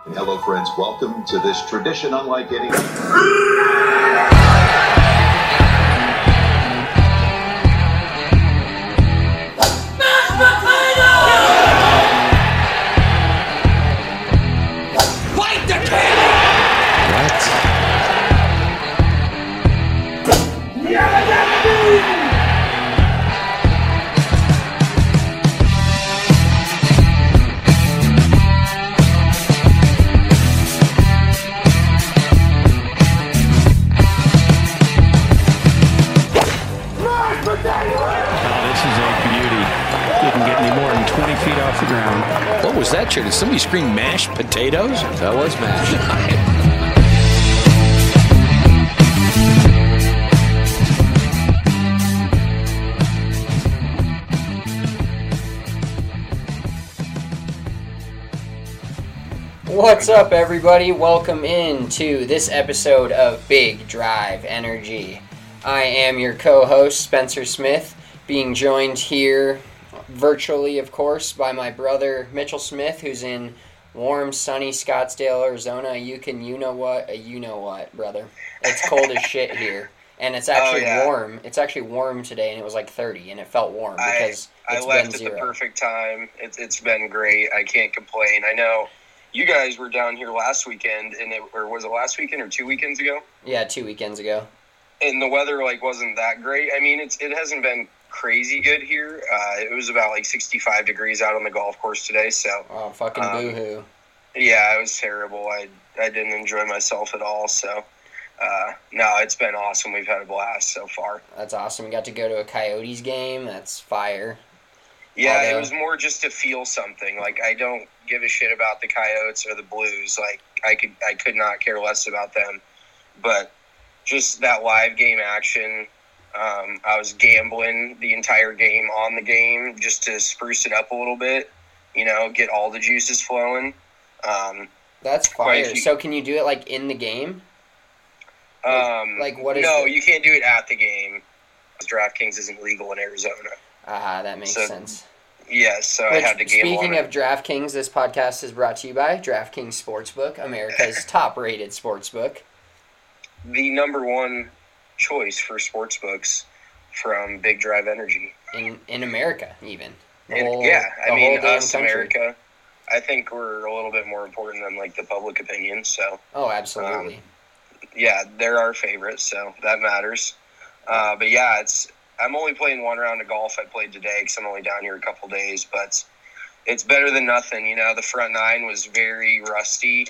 Hello, friends. Welcome to this tradition unlike any. Fight the king! What? What was that, Chair? Did somebody scream mashed potatoes? That was mashed. What's up, everybody? Welcome into this episode of Big Drive Energy. I am your co-host, Spencer Smith, being joined here virtually, of course, by my brother, Mitchell Smith, who's in warm, sunny Scottsdale, Arizona. You know what, brother. It's cold as shit here. And it's actually warm. It's actually warm today, and it was like 30, and it felt warm because it's left been at zero. The perfect time. It's been great. I can't complain. I know you guys were down here last weekend, or was it last weekend or 2 weekends ago? Yeah, 2 weekends ago. And the weather wasn't that great. I mean, it hasn't been crazy good here. It was about 65 degrees out on the golf course today. So fucking boo-hoo. Yeah, it was terrible. I didn't enjoy myself at all. So no, it's been awesome. We've had a blast so far. That's awesome. We got to go to a Coyotes game. That's fire. Yeah, It was more just to feel something. I don't give a shit about the Coyotes or the Blues. I could not care less about them. But just that live game action. I was gambling the entire game on the game just to spruce it up a little bit, get all the juices flowing. That's fire. So can you do it in the game? What is No, you can't do it at the game. DraftKings isn't legal in Arizona. That makes sense. Yeah, so I had to gamble. Speaking of DraftKings, this podcast is brought to you by DraftKings Sportsbook, America's top-rated sportsbook. The number one choice for sportsbooks from Big Drive Energy. In America, even. Us, America. I think we're a little bit more important than the public opinion. So. Oh, absolutely. They're our favorites, so that matters. But yeah, I'm only playing one round of golf. I played today because I'm only down here a couple days, but it's better than nothing. The front nine was very rusty.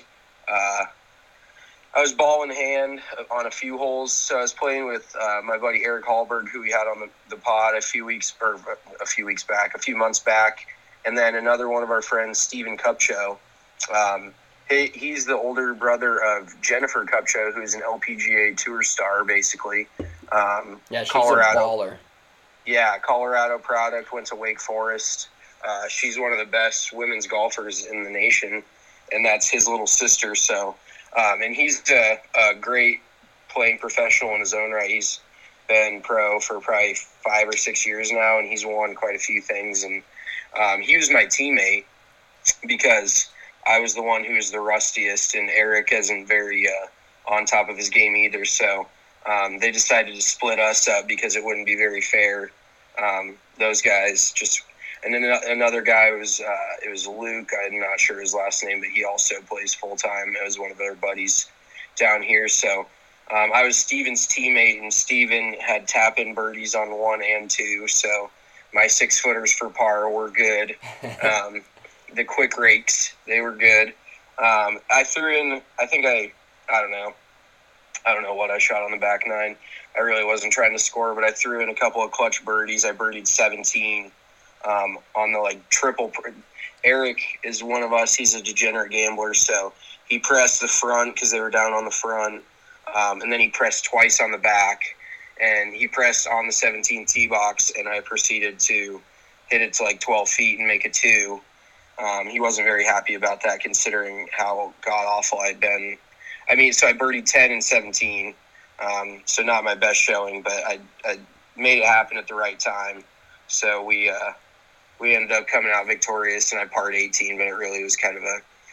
I was ball in hand on a few holes, so I was playing with my buddy Eric Hallberg, who we had on the pod a few months back, and then another one of our friends, Steven Kupcho. He's the older brother of Jennifer Kupcho, who's an LPGA Tour star, basically. She's Colorado. a baller. Yeah, Colorado product, went to Wake Forest. She's one of the best women's golfers in the nation, and that's his little sister, so... and he's a great playing professional in his own right. He's been pro for probably 5 or 6 years now, and he's won quite a few things. And he was my teammate because I was the one who was the rustiest, and Eric isn't very on top of his game either. So they decided to split us up because it wouldn't be very fair. Those guys just... And then another guy it was Luke. I'm not sure his last name, but he also plays full time. It was one of their buddies down here. So I was Steven's teammate, and Steven had tap-in birdies on 1 and 2. So my 6-footers for par were good. The quick rakes, they were good. I threw in. I don't know what I shot on the back nine. I really wasn't trying to score, but I threw in a couple of clutch birdies. I birdied 17. On the triple. Eric is one of us. He's a degenerate gambler, so he pressed the front because they were down on the front, and then he pressed twice on the back, and he pressed on the 17 tee box, and I proceeded to hit it to 12 feet and make a 2. He wasn't very happy about that considering how god-awful I'd been. So I birdied 10 and 17, so not my best showing, but I made it happen at the right time. So we ended up coming out victorious, and I parred 18, but it really was kind of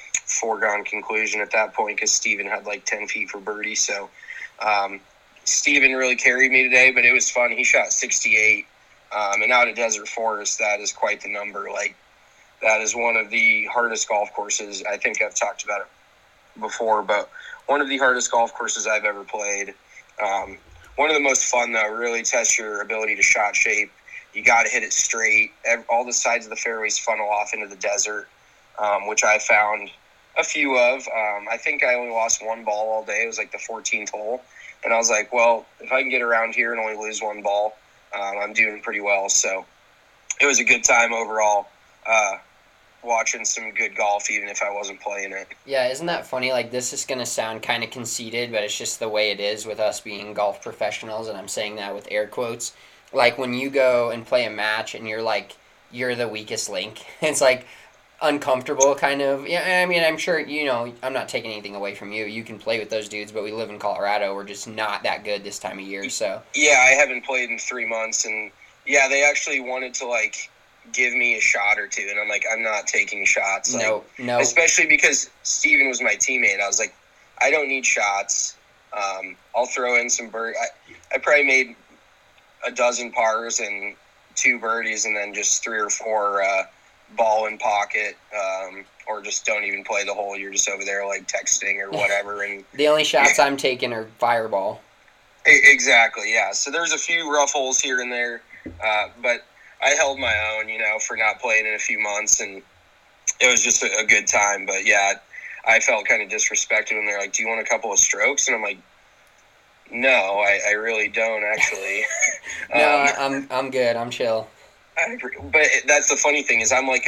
foregone conclusion at that point because Steven had like 10 feet for birdie. So Steven really carried me today, but it was fun. He shot 68. And out at Desert Forest, that is quite the number. Like, that is one of the hardest golf courses. I think I've talked about it before, but one of the hardest golf courses I've ever played. One of the most fun, though. Really tests your ability to shot shape. You got to hit it straight. All the sides of the fairways funnel off into the desert, which I found a few of. I think I only lost one ball all day. It was like the 14th hole. And I was like, well, if I can get around here and only lose one ball, I'm doing pretty well. So it was a good time overall, watching some good golf, even if I wasn't playing it. Yeah, isn't that funny? Like, this is going to sound kind of conceited, but it's just the way it is with us being golf professionals, and I'm saying that with air quotes. Like, when you go and play a match and you're like, you're the weakest link, it's like uncomfortable kind of. Yeah, I mean, I'm sure, I'm not taking anything away from you. You can play with those dudes, but we live in Colorado. We're just not that good this time of year, so. Yeah, I haven't played in 3 months, and yeah, they actually wanted to, like, give me a shot or two, and I'm like, I'm not taking shots. No. Especially because Steven was my teammate. I was like, I don't need shots. I'll throw in some I probably made a dozen pars and 2 birdies, and then just 3 or 4 ball in pocket, or just don't even play the hole. You're just over there like texting or whatever. And the only shots I'm taking are fireball. Exactly, yeah. So there's a few rough holes here and there, but I held my own, for not playing in a few months, and it was just a good time. But yeah, I felt kind of disrespected when they're like, "Do you want a couple of strokes?" And I'm like, "No, I really don't actually." No, I'm good. I'm chill. But that's the funny thing is I'm like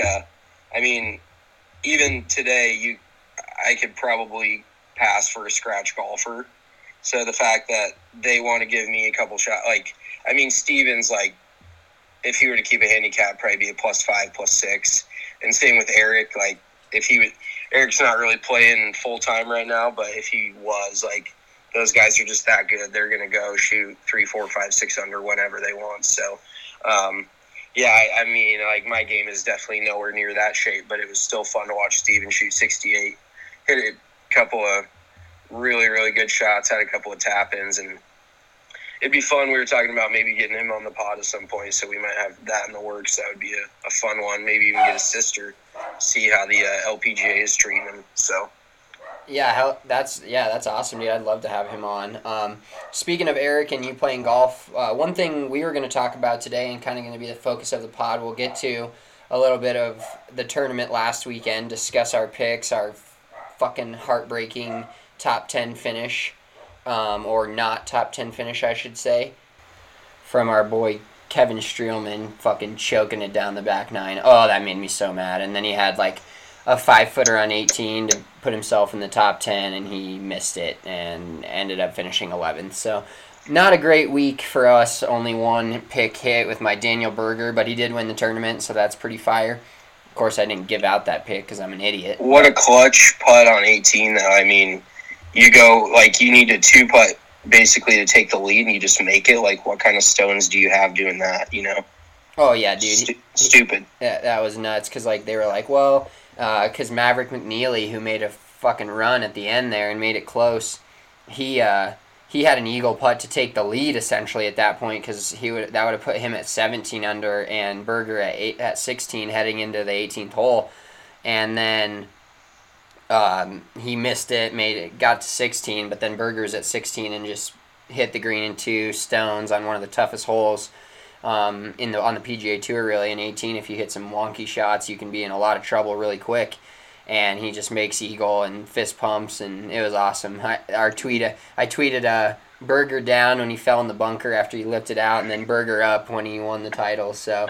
even today I could probably pass for a scratch golfer. So the fact that they want to give me a couple shots, Steven's like, if he were to keep a handicap, probably be a +5, +6. And same with Eric. Like, Eric's not really playing full time right now, but if he was, like, those guys are just that good. They're going to go shoot 3, 4, 5, 6 under whenever they want. So, my game is definitely nowhere near that shape, but it was still fun to watch Steven shoot 68. Hit a couple of really, really good shots, had a couple of tap-ins, and it'd be fun. We were talking about maybe getting him on the pod at some point, so we might have that in the works. That would be a fun one. Maybe even get his sister, see how the LPGA is treating him. So, yeah, that's awesome, dude. I'd love to have him on. Speaking of Eric and you playing golf, one thing we were going to talk about today and kind of going to be the focus of the pod, we'll get to a little bit of the tournament last weekend, discuss our picks, our fucking heartbreaking top 10 finish. Or not top 10 finish, I should say, from our boy Kevin Streelman fucking choking it down the back 9. Oh, that made me so mad. And then he had like a 5-footer on 18 to put himself in the top 10, and he missed it and ended up finishing 11th. So not a great week for us. Only one pick hit with my Daniel Berger, but he did win the tournament, so that's pretty fire. Of course, I didn't give out that pick because I'm an idiot. What a clutch putt on 18, though. You go, like, you need a 2-putt basically to take the lead, and you just make it. Like, what kind of stones do you have doing that, Oh, yeah, dude. Stupid. Yeah, that was nuts, because, like, they were like, well, because Maverick McNeely, who made a fucking run at the end there and made it close, he had an eagle putt to take the lead, essentially, at that point, because that would have put him at 17 under and Berger at 16 heading into the 18th hole. And then he missed it, got to 16, but then Berger's at 16 and just hit the green in 2 stones on one of the toughest holes on the PGA Tour, really. In 18, if you hit some wonky shots, you can be in a lot of trouble really quick. And he just makes eagle and fist pumps, and it was awesome. I tweeted Berger down when he fell in the bunker after he lifted out, and then Berger up when he won the title. So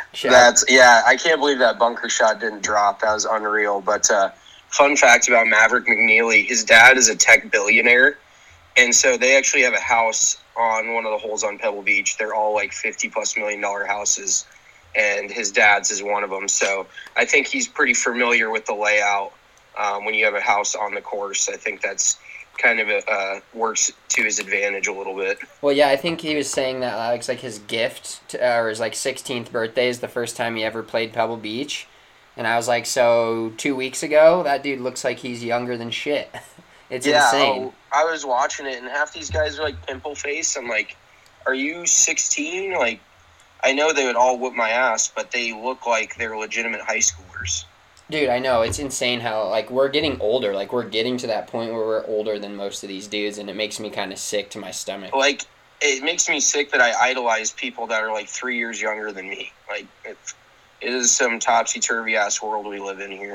I can't believe that bunker shot didn't drop. That was unreal. But fun fact about Maverick McNeely, his dad is a tech billionaire, and so they actually have a house on one of the holes on Pebble Beach. They're all like $50+ million houses, and his dad's is one of them. So I think he's pretty familiar with the layout when you have a house on the course. I think that's kind of works to his advantage a little bit. Well, yeah, I think he was saying that it's like his gift or his like 16th birthday is the first time he ever played Pebble Beach. And I was like, so 2 weeks ago, that dude looks like he's younger than shit. It's Yeah, insane. I was watching it, and half these guys are like pimple face. I'm like, are you 16? Like, I know they would all whoop my ass, but they look like they're legitimate high schoolers. Dude, I know. It's insane how, like, we're getting older. Like, we're getting to that point where we're older than most of these dudes, and it makes me kind of sick to my stomach. Like, it makes me sick that I idolize people that are like 3 years younger than me. Like, it is some topsy-turvy ass world we live in here.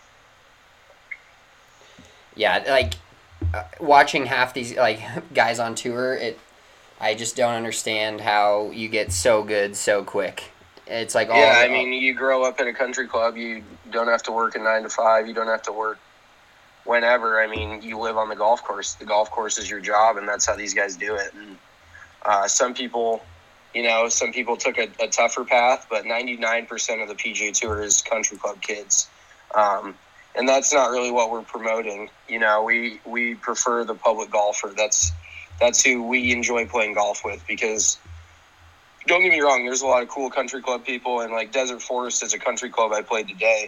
Yeah, like, watching half these, like, guys on tour, I just don't understand how you get so good so quick. It's like all... Yeah, I mean, you grow up at a country club, you don't have to work a 9 to 5, you don't have to work whenever. I mean, you live on the golf course. The golf course is your job, and that's how these guys do it. And some people, some people took a tougher path, but 99% of the PGA Tour is country club kids. And that's not really what we're promoting. We prefer the public golfer. That's who we enjoy playing golf with, because don't get me wrong, there's a lot of cool country club people, and like Desert Forest is a country club I played today.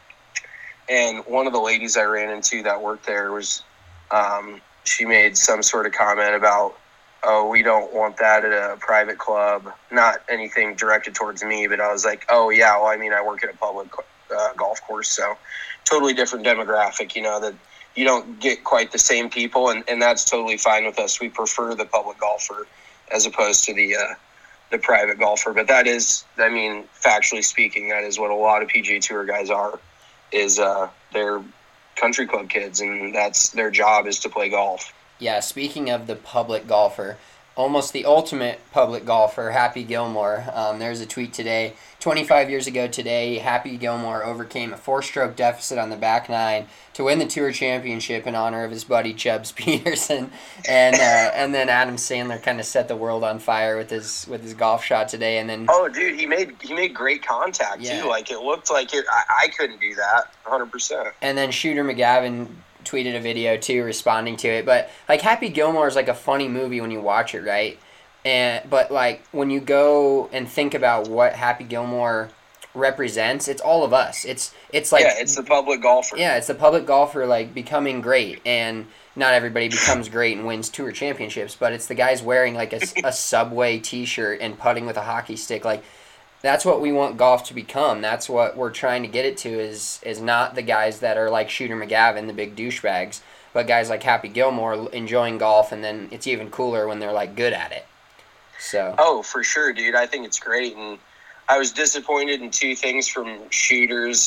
And one of the ladies I ran into that worked there was, she made some sort of comment about, oh, we don't want that at a private club. Not anything directed towards me, but I was like, oh yeah, well, I mean, I work at a public golf course, so totally different demographic, that you don't get quite the same people, and that's totally fine with us. We prefer the public golfer as opposed to the private golfer. But that is, I mean, factually speaking, that is what a lot of PGA Tour guys are, is they're country club kids, and that's their job, is to play golf. Yeah, speaking of the public golfer, almost the ultimate public golfer, Happy Gilmore. There's a tweet today. 25 years ago today, Happy Gilmore overcame a 4-stroke deficit on the back nine to win the Tour Championship in honor of his buddy Chubbs Peterson. And then Adam Sandler kind of set the world on fire with his golf shot today. And then dude, he made great contact too. Like, it looked like it. I couldn't do that 100%. And then Shooter McGavin tweeted a video too responding to it. But like, Happy Gilmore is like a funny movie when you watch it, right? But like, when you go and think about what Happy Gilmore represents, it's all of us. It's like, yeah, it's the public golfer. Yeah, it's the public golfer, like, becoming great. And not everybody becomes great and wins Tour Championships, but it's the guys wearing like a Subway t-shirt and putting with a hockey stick. Like, that's what we want golf to become. That's what we're trying to get it to, is not the guys that are like Shooter McGavin, the big douchebags, but guys like Happy Gilmore enjoying golf, and then it's even cooler when they're like good at it. So. Oh, for sure, dude. I think it's great, and I was disappointed in two things from Shooter's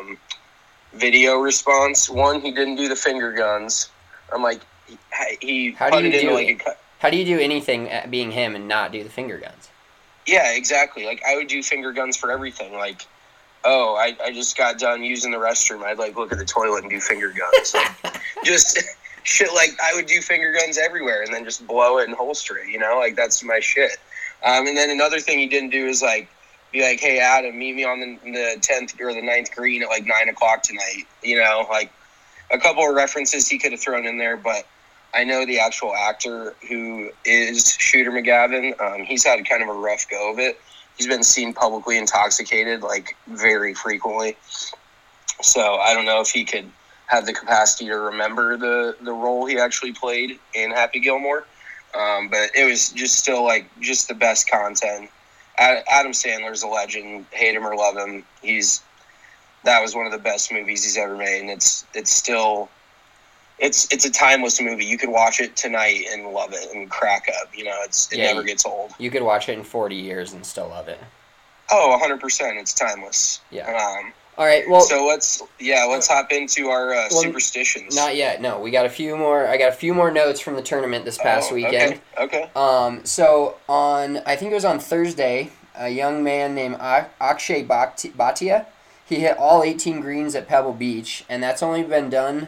video response. One, he didn't do the finger guns. I'm like, he putted into like a... How do you do anything at being him and not do the finger guns? Yeah, exactly. Like, I would do finger guns for everything. Like, oh, I just got done using the restroom. I'd like look at the toilet and do finger guns. Like, just shit. Like, I would do finger guns everywhere and then just blow it and holster it. Like, that's my shit. And then another thing he didn't do is like be like, hey Adam, meet me on the 10th or the 9th green at like 9:00 tonight. Like a couple of references he could have thrown in there, but I know the actual actor who is Shooter McGavin. He's had kind of a rough go of it. He's been seen publicly intoxicated, like, very frequently. So I don't know if he could have the capacity to remember the role he actually played in Happy Gilmore. But it was just still, like, just the best content. Adam Sandler's a legend. Hate him or love him. That was one of the best movies he's ever made, and it's still... It's a timeless movie. You could watch it tonight and love it and crack up. It never gets old. You could watch it in 40 years and still love it. Oh, 100%. It's timeless. Yeah. All right. Well, so let's hop into our superstitions. Not yet. No, we got a few more. I got a few more notes from the tournament this past weekend. Okay. So I think it was on Thursday, a young man named Akshay Bhatia, he hit all 18 greens at Pebble Beach, and that's only been done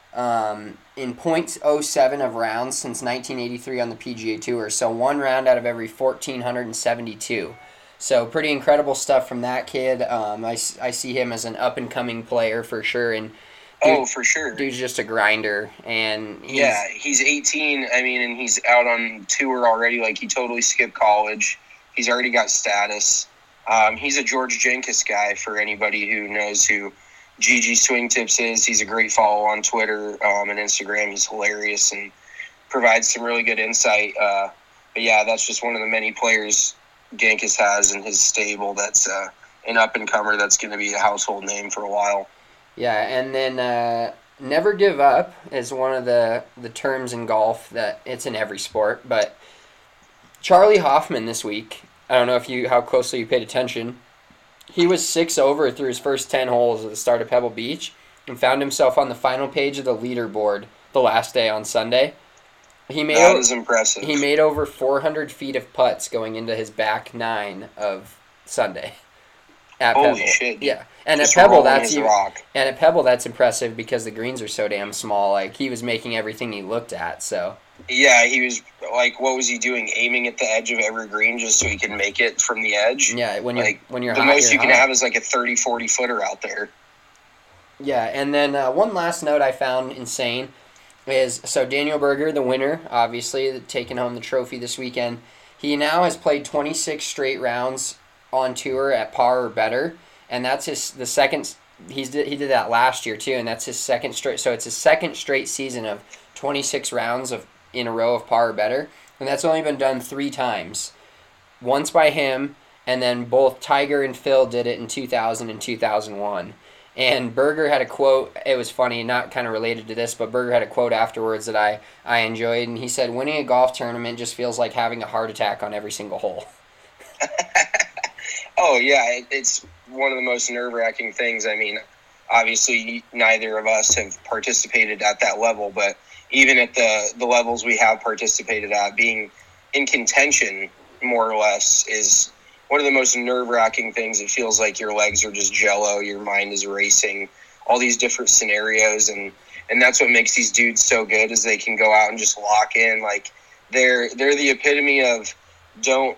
in .07 of rounds since 1983 on the PGA Tour. So one round out of every 1,472. So pretty incredible stuff from that kid. I see him as an up-and-coming player for sure. And for sure. Dude's just a grinder. And he's 18, and he's out on tour already. Like, he totally skipped college. He's already got status. He's a George Jenkins guy for anybody who knows who GG Swing Tips is. He's a great follow on Twitter and Instagram. He's hilarious and provides some really good insight. But yeah, that's just one of the many players Jenkins has in his stable that's an up-and-comer that's going to be a household name for a while. Yeah, and then never give up is one of the terms in golf that it's in every sport. But Charlie Hoffman this week, I don't know how closely you paid attention, he was 6 over through his first 10 holes at the start of Pebble Beach and found himself on the final page of the leaderboard the last day on Sunday. That is impressive. He made over 400 feet of putts going into his back 9 of Sunday at Holy Pebble. shit. Yeah. And Just at Pebble rolling his rock. And at Pebble that's impressive because the greens are so damn small. Like he was making everything he looked at, so yeah, he was like, what was he doing? Aiming at the edge of every green just so he could make it from the edge? Yeah, when you're the hot, most you can hot. have is like a 30-40 footer out there. Yeah, and then one last note I found insane is, so Daniel Berger, the winner, obviously taking home the trophy this weekend, he now has played 26 straight rounds on tour at par or better, and that's the second. He did that last year too, and that's his second straight. So it's his second straight season of 26 rounds in a row of par or better, and that's only been done 3 times. Once by him, and then both Tiger and Phil did it in 2000 and 2001. And Berger had a quote, it was funny, not kind of related to this, but Berger had a quote afterwards that I enjoyed, and he said, winning a golf tournament just feels like having a heart attack on every single hole. Oh, yeah, it's one of the most nerve-wracking things. I mean, obviously, neither of us have participated at that level, but even at the levels we have participated at, being in contention, more or less, is one of the most nerve-wracking things. It feels like your legs are just jello, your mind is racing, all these different scenarios, and that's what makes these dudes so good, is they can go out and just lock in. Like, they're the epitome of don't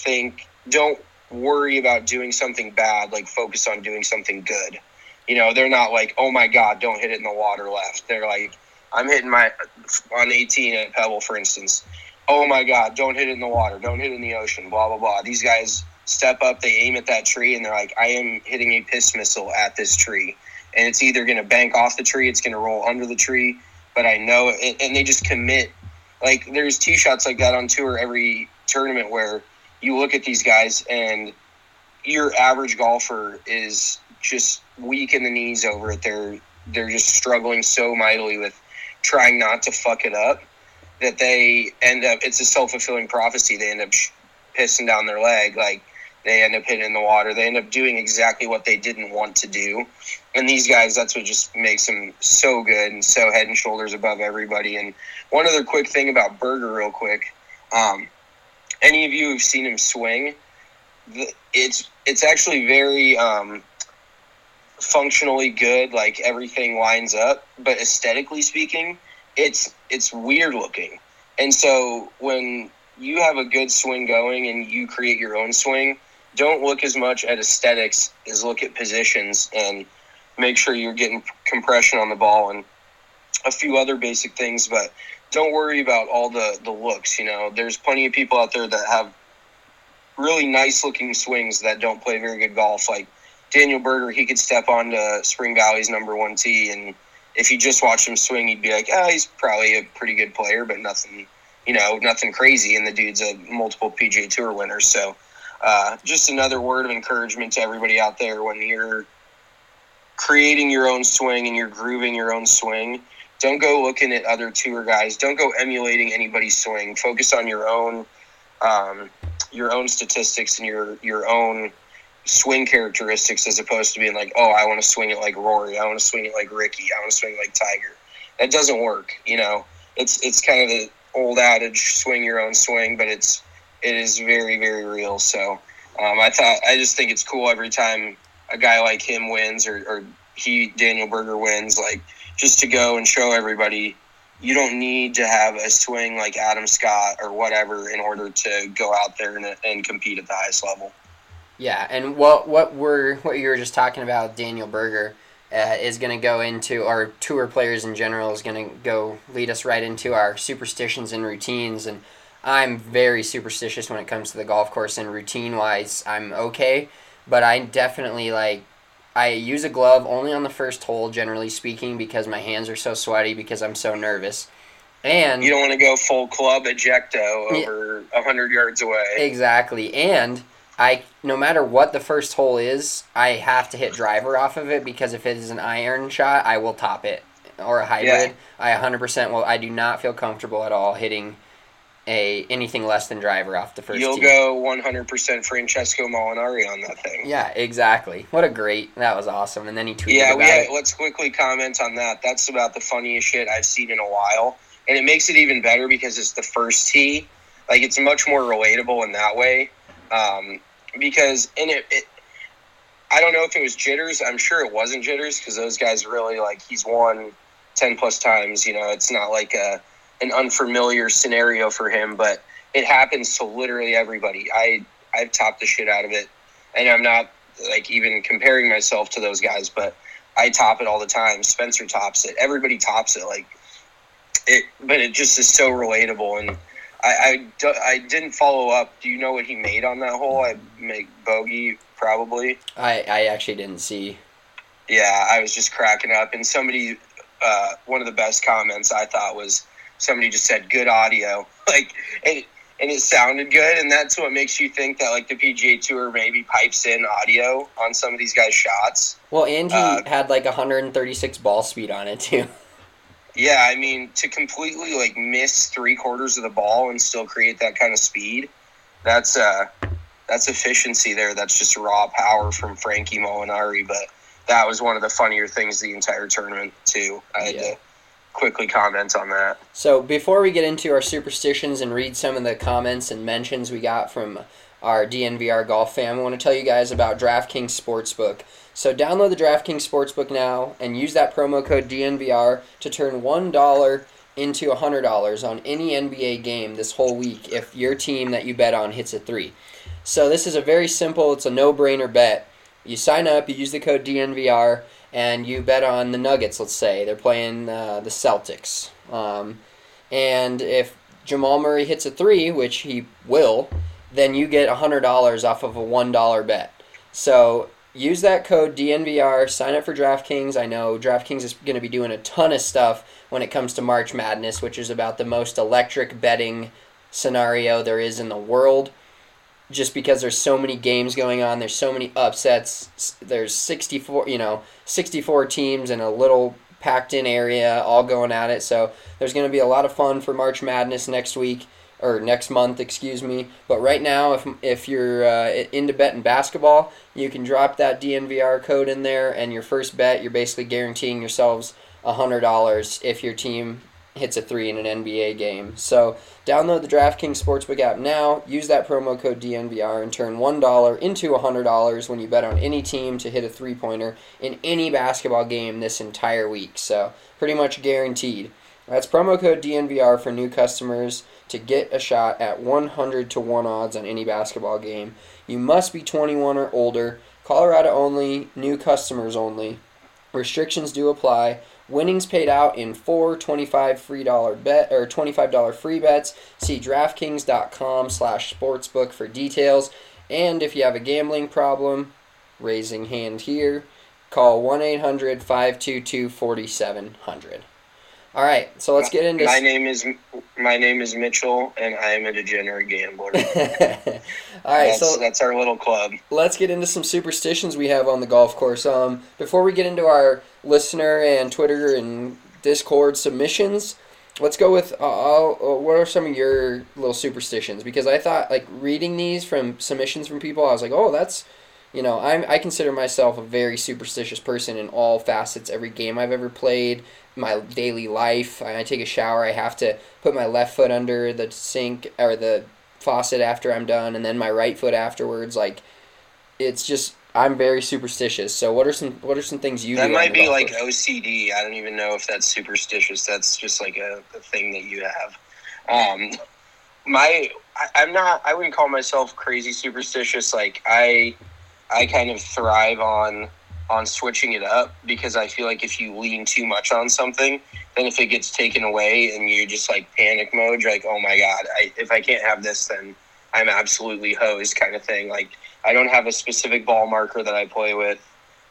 worry about doing something bad, like focus on doing something good. You know, they're not like, oh my God, don't hit it in the water left. They're like, I'm hitting on 18 at Pebble, for instance. Oh my God, don't hit it in the water. Don't hit it in the ocean, blah, blah, blah. These guys step up, they aim at that tree, and they're like, I am hitting a piss missile at this tree. And it's either going to bank off the tree, it's going to roll under the tree, but I know it. And they just commit. Like, there's tee shots like that on tour every tournament where you look at these guys and your average golfer is just weak in the knees over it. They're just struggling so mightily with trying not to fuck it up that they end up, it's a self-fulfilling prophecy. They end up pissing down their leg. Like, they end up hitting in the water. They end up doing exactly what they didn't want to do. And these guys, that's what just makes them so good and so head and shoulders above everybody. And one other quick thing about Berger real quick. Any of you who've seen him swing, it's actually very functionally good. Like, everything lines up. But aesthetically speaking, it's weird looking. And so when you have a good swing going and you create your own swing, don't look as much at aesthetics as look at positions and make sure you're getting compression on the ball and a few other basic things. But don't worry about all the looks. You know, there's plenty of people out there that have really nice looking swings that don't play very good golf. Like Daniel Berger, he could step onto Spring Valley's number 1 tee, and if you just watch him swing, you'd be like, he's probably a pretty good player, but nothing crazy. And the dude's a multiple PGA Tour winner. So just another word of encouragement to everybody out there: when you're creating your own swing and you're grooving your own swing, don't go looking at other tour guys. Don't go emulating anybody's swing. Focus on your own statistics and your own swing characteristics, as opposed to being like, I want to swing it like Rory. I want to swing it like Ricky. I want to swing it like Tiger. That doesn't work. You know, it's kind of the old adage, swing your own swing, but it is very, very real. So I just think it's cool every time a guy like him wins or Daniel Berger wins, like, just to go and show everybody you don't need to have a swing like Adam Scott or whatever in order to go out there and compete at the highest level. Yeah, and what you were just talking about, Daniel Berger, is going to go into our tour players in general, is going to go lead us right into our superstitions and routines. And I'm very superstitious when it comes to the golf course, and routine-wise, I'm okay. But I definitely, I use a glove only on the first hole, generally speaking, because my hands are so sweaty because I'm so nervous. And you don't want to go full club ejecto over 100 yards away. Exactly. And no matter what the first hole is, I have to hit driver off of it, because if it is an iron shot, I will top it. Or a hybrid. I 100% will. I do not feel comfortable at all hitting anything less than driver off the first You'll tee. go 100% Francesco Molinari on that thing. Yeah, exactly. That was awesome. And then he tweeted about it. Let's quickly comment on that. That's about the funniest shit I've seen in a while. And it makes it even better because it's the first tee. Like, it's much more relatable in that way. Because in it, I don't know if it was jitters. I'm sure it wasn't jitters, because those guys really, he's won 10 plus times. It's not like an unfamiliar scenario for him, but it happens to literally everybody. I've topped the shit out of it, and I'm not even comparing myself to those guys, but I top it all the time. Spencer tops it. Everybody tops it. But it just is so relatable. And I didn't follow up. Do you know what he made on that hole? I make bogey probably. I actually didn't see. Yeah, I was just cracking up, and somebody. One of the best comments I thought was somebody just said good audio, and it sounded good, and that's what makes you think that the PGA Tour maybe pipes in audio on some of these guys' shots. Well, and he had 136 ball speed on it too. Yeah, I mean, to completely miss 3/4 of the ball and still create that kind of speed, that's efficiency there. That's just raw power from Frankie Molinari, but. That was one of the funnier things the entire tournament, too. I had to quickly comment on that. So before we get into our superstitions and read some of the comments and mentions we got from our DNVR golf fam, I want to tell you guys about DraftKings Sportsbook. So download the DraftKings Sportsbook now and use that promo code DNVR to turn $1 into $100 on any NBA game this whole week if your team that you bet on hits a 3. So this is it's a no-brainer bet. You sign up, you use the code DNVR, and you bet on the Nuggets, let's say. They're playing the Celtics. And if Jamal Murray hits a 3, which he will, then you get $100 off of a $1 bet. So use that code DNVR, sign up for DraftKings. I know DraftKings is going to be doing a ton of stuff when it comes to March Madness, which is about the most electric betting scenario there is in the world. Just because there's so many games going on, there's so many upsets, there's 64 teams in a little packed-in area all going at it. So there's going to be a lot of fun for March Madness next month, excuse me. But right now, if you're into betting basketball, you can drop that DNVR code in there, and your first bet, you're basically guaranteeing yourselves $100 if your team hits a 3 in an NBA game. So download the DraftKings Sportsbook app now, use that promo code DNVR, and turn $1 into $100 when you bet on any team to hit a 3-pointer in any basketball game this entire week. So pretty much guaranteed. That's promo code DNVR for new customers to get a shot at 100 to 1 odds on any basketball game. You must be 21 or older. Colorado only, new customers only. Restrictions do apply. Winnings paid out in 4 $25 free bets. See DraftKings.com/sportsbook for details. And if you have a gambling problem, raising hand here, call 1-800-522-4700. All right, so let's get into. My name is Mitchell, and I am a degenerate gambler. All right, that's our little club. Let's get into some superstitions we have on the golf course. Before we get into our listener and Twitter and Discord submissions, let's go with what are some of your little superstitions? Because I thought, reading these from submissions from people, I was like, oh, that's. I consider myself a very superstitious person in all facets. Every game I've ever played, my daily life. I take a shower, I have to put my left foot under the sink or the faucet after I'm done, and then my right foot afterwards. It's just I'm very superstitious. So what are some things you do? That might be like OCD. I don't even know if that's superstitious. That's just like a thing that you have. I wouldn't call myself crazy superstitious. I kind of thrive on switching it up, because I feel like if you lean too much on something, then if it gets taken away and you just like panic mode, you're like, oh my God, if I can't have this, then I'm absolutely hosed kind of thing. Like, I don't have a specific ball marker that I play with.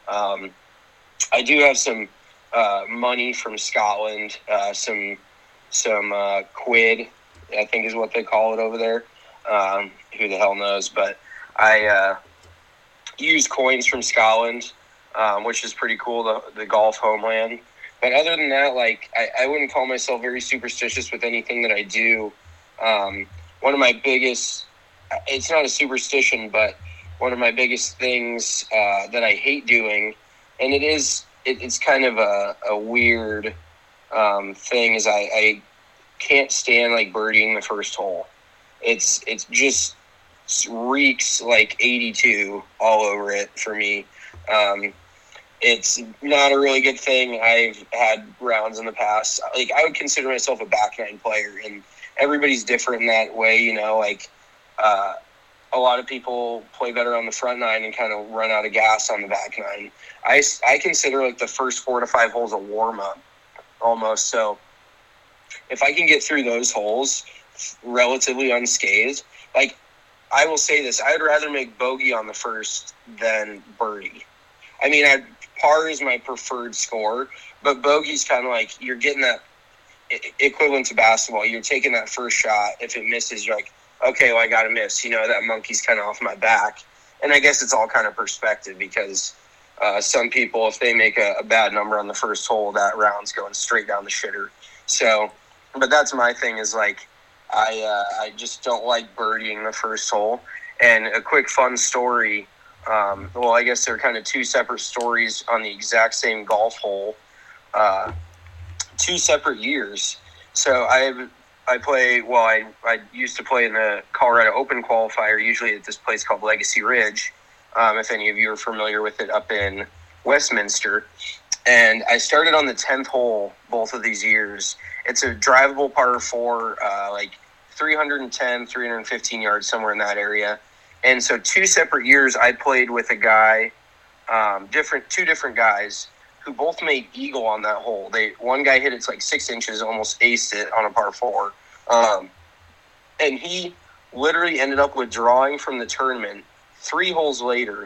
I do have some money from Scotland, some quid, I think is what they call it over there. Who the hell knows? But I use coins from Scotland, which is pretty cool, the golf homeland. But other than that, like, I wouldn't call myself very superstitious with anything that I do. One of my biggest, it's not a superstition, but one of my biggest things that I hate doing, and it's kind of a weird thing, is I can't stand like birdieing the first hole. It's just reeks like 82 all over it for me. It's not a really good thing. I've had rounds in the past. Like, I would consider myself a back nine player, and everybody's different in that way, you know. Like, a lot of people play better on the front nine and kind of run out of gas on the back nine. I consider like the first 4 to 5 holes a warm up almost. So if I can get through those holes relatively unscathed, like, I will say this, I would rather make bogey on the first than birdie. I mean, par is my preferred score, but bogey's kind of like, you're getting that equivalent to basketball. You're taking that first shot. If it misses, you're like, okay, well, I got to miss. You know, that monkey's kind of off my back. And I guess it's all kind of perspective, because some people, if they make a bad number on the first hole, that round's going straight down the shitter. So, but that's my thing, is like, I just don't like birdieing the first hole. And a quick fun story, well, I guess they're kind of two separate stories on the exact same golf hole, 2 separate years. So I used to play in the Colorado Open qualifier, usually at this place called Legacy Ridge, if any of you are familiar with it, up in Westminster. And I started on the 10th hole both of these years. It's a drivable par 4, like 310, 315 yards, somewhere in that area. And so 2 separate years I played with a guy, two different guys, who both made eagle on that hole. One guy hit it like 6 inches, almost aced it on a par 4. And he literally ended up withdrawing from the tournament 3 holes later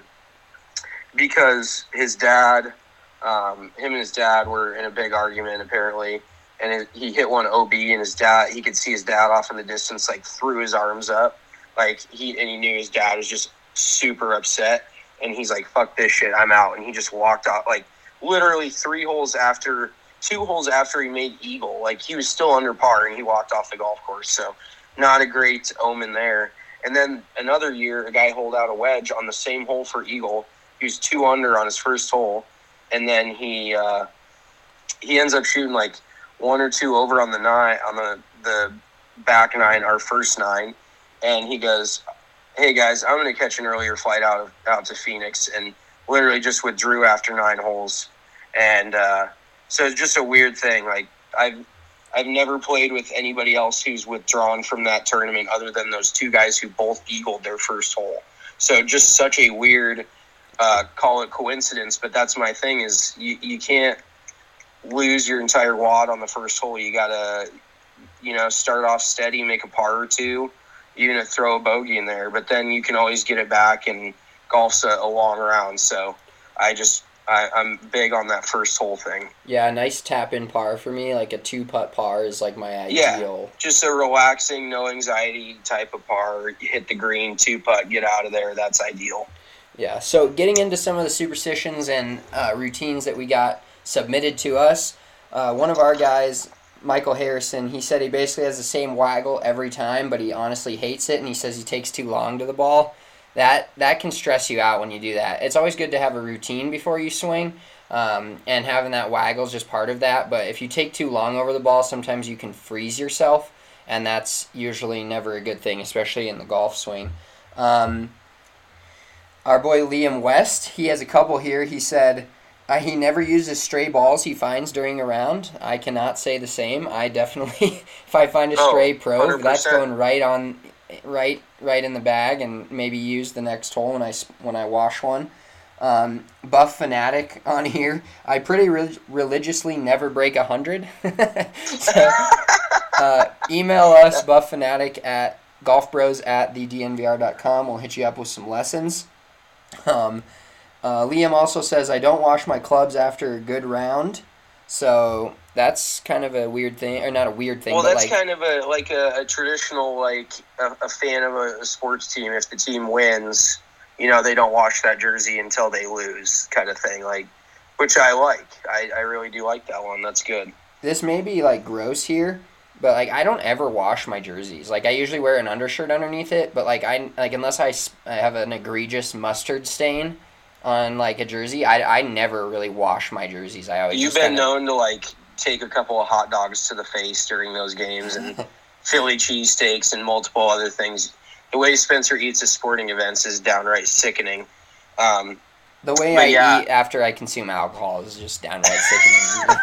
because his dad, him and his dad were in a big argument apparently. And he hit one OB, and he could see his dad off in the distance, like, threw his arms up. Like, he knew his dad was just super upset. And he's like, fuck this shit, I'm out. And he just walked out, like, literally 2 holes after he made eagle. Like, he was still under par, and he walked off the golf course. So, not a great omen there. And then another year, a guy holed out a wedge on the same hole for eagle. He was 2 under on his first hole. And then he ends up shooting, like, 1 or 2 over on the nine, on the back nine, our first nine, and he goes, "Hey guys, I'm going to catch an earlier flight out to Phoenix," and literally just withdrew after 9 holes. And so it's just a weird thing. Like, I've never played with anybody else who's withdrawn from that tournament other than those 2 guys who both eagled their first hole. So just such a weird, call it coincidence, but that's my thing, is you can't lose your entire wad on the first hole. You gotta, start off steady, make a par or 2, even throw a bogey in there, but then you can always get it back, and golf's a long round. So I'm big on that first hole thing. Yeah, a nice tap-in par for me, like a 2-putt par is like my ideal. Yeah, just a relaxing, no anxiety type of par. You hit the green, 2-putt, get out of there. That's ideal. Yeah, so getting into some of the superstitions and routines that we got submitted to us, one of our guys, Michael Harrison, he said he basically has the same waggle every time, but he honestly hates it, and he says he takes too long to the ball. That can stress you out when you do that. It's always good to have a routine before you swing, and having that waggle is just part of that, but if you take too long over the ball, sometimes you can freeze yourself, and that's usually never a good thing, especially in the golf swing. Our boy Liam West, he has a couple here. He said, he never uses stray balls he finds during a round. I cannot say the same. I definitely, if I find a stray probe, 100%. That's going right in the bag, and maybe use the next hole when I wash one. Buff Fanatic on here. I pretty religiously never break 100. So, email us, buffanatic at golfbros@thednvr.com. We'll hit you up with some lessons. Liam also says, I don't wash my clubs after a good round. So that's kind of a weird thing, or not a weird thing. Well, but that's kind of a traditional, like a fan of a sports team. If the team wins, they don't wash that jersey until they lose, kind of thing. Like, which I like. I really do like that one. That's good. This may be like gross here, but like I don't ever wash my jerseys. Like I usually wear an undershirt underneath it, but like unless I have an egregious mustard stain on like a jersey, I never really wash my jerseys. I always You've been known to like take a couple of hot dogs to the face during those games and Philly cheesesteaks and multiple other things. The way Spencer eats at sporting events is downright sickening. The way I eat after I consume alcohol is just downright sickening.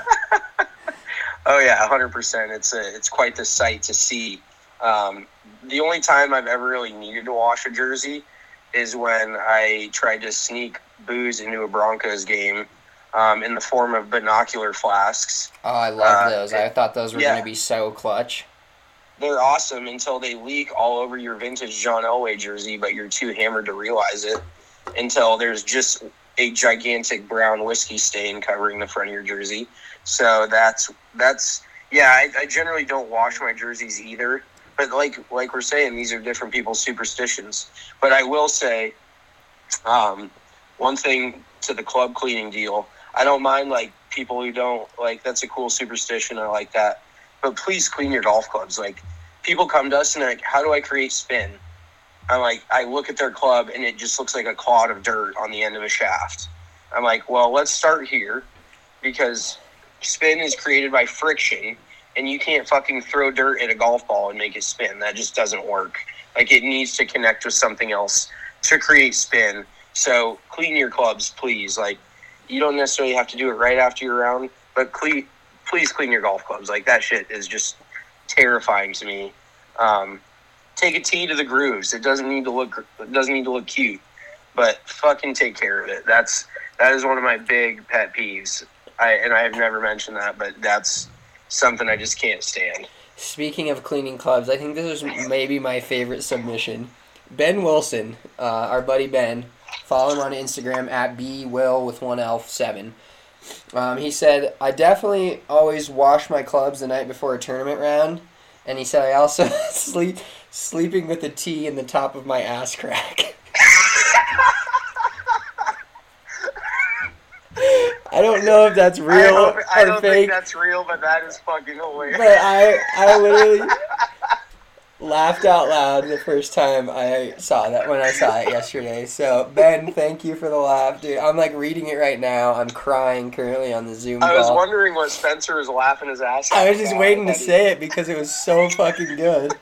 Oh yeah, 100%. It's quite the sight to see. The only time I've ever really needed to wash a jersey is when I tried to sneak booze into a Broncos game in the form of binocular flasks. Oh, I love those. I thought those were going to be so clutch. They're awesome until they leak all over your vintage John Elway jersey, but you're too hammered to realize it until there's just a gigantic brown whiskey stain covering the front of your jersey. So that's I generally don't wash my jerseys either. But like we're saying, these are different people's superstitions. But I will say, one thing to the club cleaning deal, I don't mind like people who don't like. That's a cool superstition. I like that. But please clean your golf clubs. Like people come to us and they're like, "How do I create spin?" I'm like, I look at their club and it just looks like a clod of dirt on the end of a shaft. I'm like, well, let's start here because spin is created by friction. And you can't fucking throw dirt at a golf ball and make it spin. That just doesn't work. Like, it needs to connect with something else to create spin. So, clean your clubs, please. Like, you don't necessarily have to do it right after your round, but please clean your golf clubs. Like, that shit is just terrifying to me. Take a tee to the grooves. It doesn't need to look cute, but fucking take care of it. That is one of my big pet peeves. I have never mentioned that, but that's something I just can't stand. Speaking of cleaning clubs, I think this is maybe my favorite submission. Ben Wilson, our buddy Ben, follow him on Instagram at bwill with 1L7. He said, I definitely always wash my clubs the night before a tournament round. And he said, I also sleeping with a tee in the top of my ass crack. I don't know if that's real I or don't fake. think that's real, but that is fucking hilarious. But I literally laughed out loud the first time I saw that when I saw it yesterday. So, Ben, thank you for the laugh, dude. I'm like reading it right now. I'm crying currently on the Zoom call. I was wondering what Spencer was laughing his ass off. I was just waiting to say it because it was so fucking good.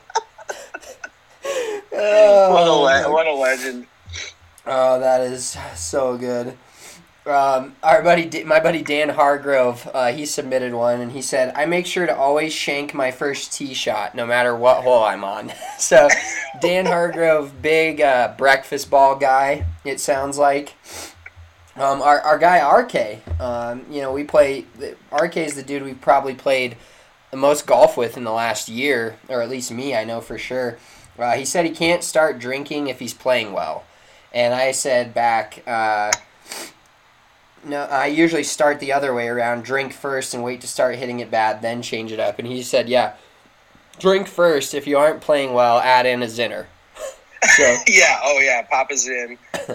What a legend. Oh, that is so good. My buddy Dan Hargrove, he submitted one, and he said, I make sure to always shank my first tee shot, no matter what hole I'm on. So, Dan Hargrove, big breakfast ball guy, it sounds like. Our guy, RK, RK is the dude we've probably played the most golf with in the last year, or at least me, I know for sure. He said he can't start drinking if he's playing well. And I said back... No, I usually start the other way around. Drink first and wait to start hitting it bad, then change it up. And he said, yeah, drink first. If you aren't playing well, add in a Zinner. So. Yeah, pop a Zin.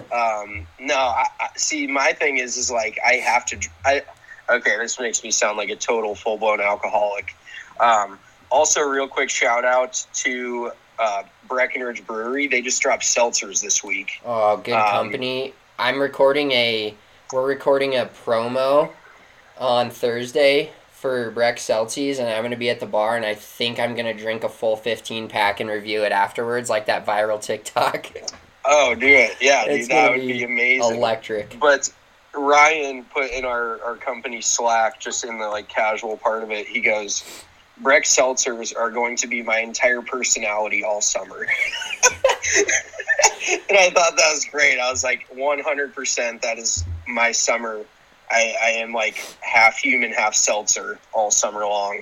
See, my thing is like I have to... okay, this makes me sound like a total full-blown alcoholic. Also, real quick shout-out to Breckenridge Brewery. They just dropped seltzers this week. Oh, good company. We're recording a promo on Thursday for Breck Seltzies, and I'm going to be at the bar, and I think I'm going to drink a full 15-pack and review it afterwards, like that viral TikTok. Oh, do it. Yeah, dude, that would be amazing. Electric. But Ryan put in our company Slack, just in the like casual part of it, he goes, Breck Seltzers are going to be my entire personality all summer. And I thought that was great. I was like, 100%, that is my summer. I am like half human, half seltzer all summer long.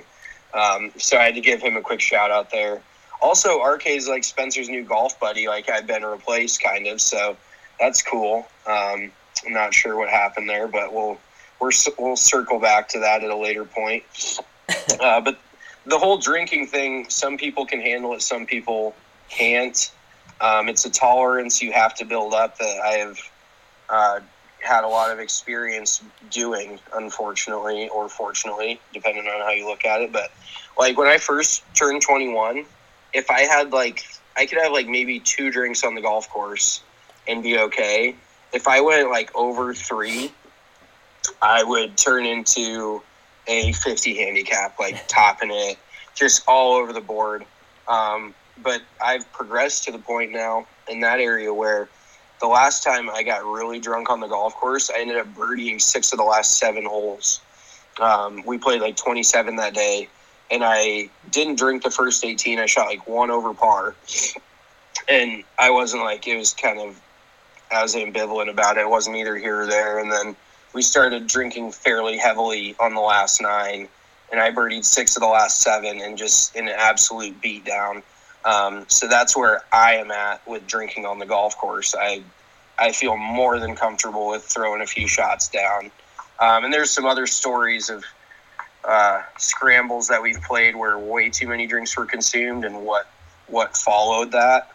So I had to give him a quick shout out there. Also, RK is like Spencer's new golf buddy. Like, I've been replaced kind of, so that's cool. I'm not sure what happened there, but we'll circle back to that at a later point. But the whole drinking thing, some people can handle it, some people can't. It's a tolerance you have to build up that I have had a lot of experience doing, unfortunately, or fortunately, depending on how you look at it. But like when I first turned 21, if I had I could have maybe 2 drinks on the golf course and be okay. If I went over 3, I would turn into a 50 handicap, topping it, just all over the board. But I've progressed to the point now in that area where the last time I got really drunk on the golf course, I ended up birdieing 6 of the last 7 holes. We played 27 that day, and I didn't drink the first 18. I shot 1 over par. And I wasn't it was kind of, I was ambivalent about it. It wasn't either here or there. And then we started drinking fairly heavily on the last 9, and I birdied 6 of the last 7 and just in an absolute beatdown. So that's where I am at with drinking on the golf course. I feel more than comfortable with throwing a few shots down. And there's some other stories of scrambles that we've played where way too many drinks were consumed and what followed that.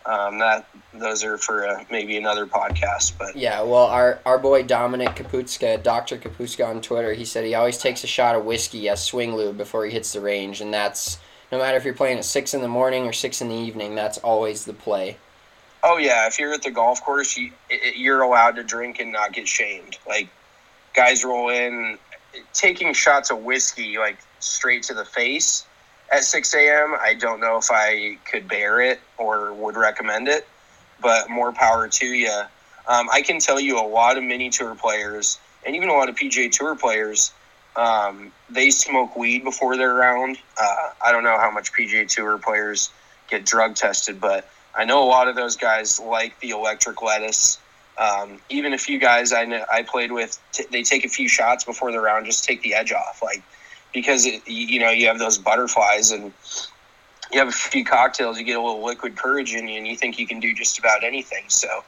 Those are for maybe another podcast. But yeah, well, our boy Dominic Kaputska, Dr. Kaputska on Twitter, he said he always takes a shot of whiskey as swing lube before he hits the range, and that's no matter if you're playing at 6 in the morning or 6 in the evening, that's always the play. Oh yeah, if you're at the golf course, you're allowed to drink and not get shamed. Guys roll in, taking shots of whiskey straight to the face at 6 a.m., I don't know if I could bear it or would recommend it, but more power to you. I can tell you a lot of mini tour players and even a lot of PGA Tour players, they smoke weed before their round. I don't know how much PGA Tour players get drug tested, but I know a lot of those guys like the electric lettuce. Even a few guys I played with, they take a few shots before the round, just take the edge off, because you have those butterflies and you have a few cocktails, you get a little liquid courage in you, and you think you can do just about anything. So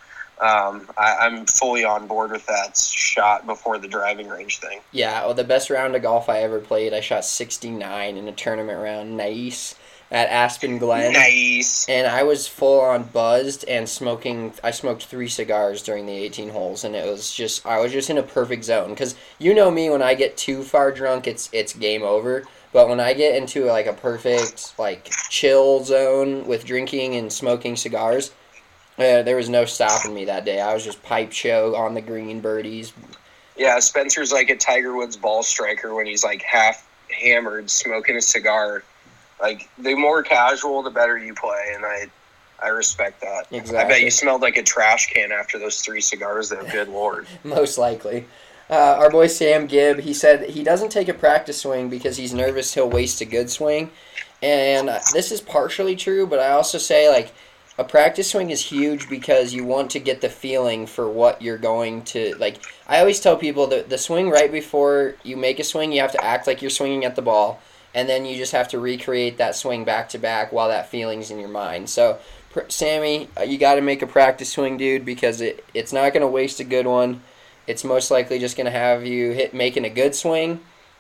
I'm fully on board with that shot before the driving range thing. Yeah, well, the best round of golf I ever played, I shot 69 in a tournament round, nice, at Aspen Glen. Nice. And I was full on buzzed and smoking. I smoked 3 cigars during the 18 holes, and I was just in a perfect zone. Because you know me, when I get too far drunk, it's game over. But when I get into a perfect chill zone with drinking and smoking cigars, there was no stopping me that day. I was just pipe show on the green, birdies. Yeah, Spencer's like a Tiger Woods ball striker when he's half hammered, smoking a cigar. The more casual, the better you play, and I respect that. Exactly. I bet you smelled like a trash can after those 3 cigars, though. Good Lord. Most likely. Our boy Sam Gibb, he said he doesn't take a practice swing because he's nervous he'll waste a good swing. And this is partially true, but I also say, a practice swing is huge because you want to get the feeling for what you're going to, I always tell people that the swing right before you make a swing, you have to act like you're swinging at the ball. And then you just have to recreate that swing back-to-back while that feeling's in your mind. So, Sammy, you got to make a practice swing, dude, because it's not going to waste a good one. It's most likely just going to have you making a good swing,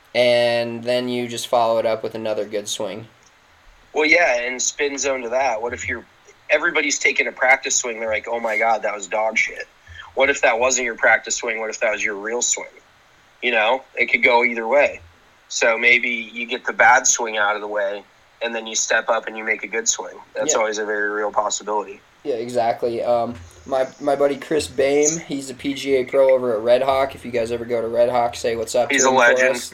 and then you just follow it up with another good swing. Well, yeah, and spin zone to that. What if everybody's taking a practice swing, they're like, oh my God, that was dog shit. What if that wasn't your practice swing? What if that was your real swing? It could go either way. So maybe you get the bad swing out of the way, and then you step up and you make a good swing. That's always a very real possibility. Yeah, exactly. My buddy Chris Bame, he's a PGA pro over at Red Hawk. If you guys ever go to Red Hawk, say what's up. He's a legend.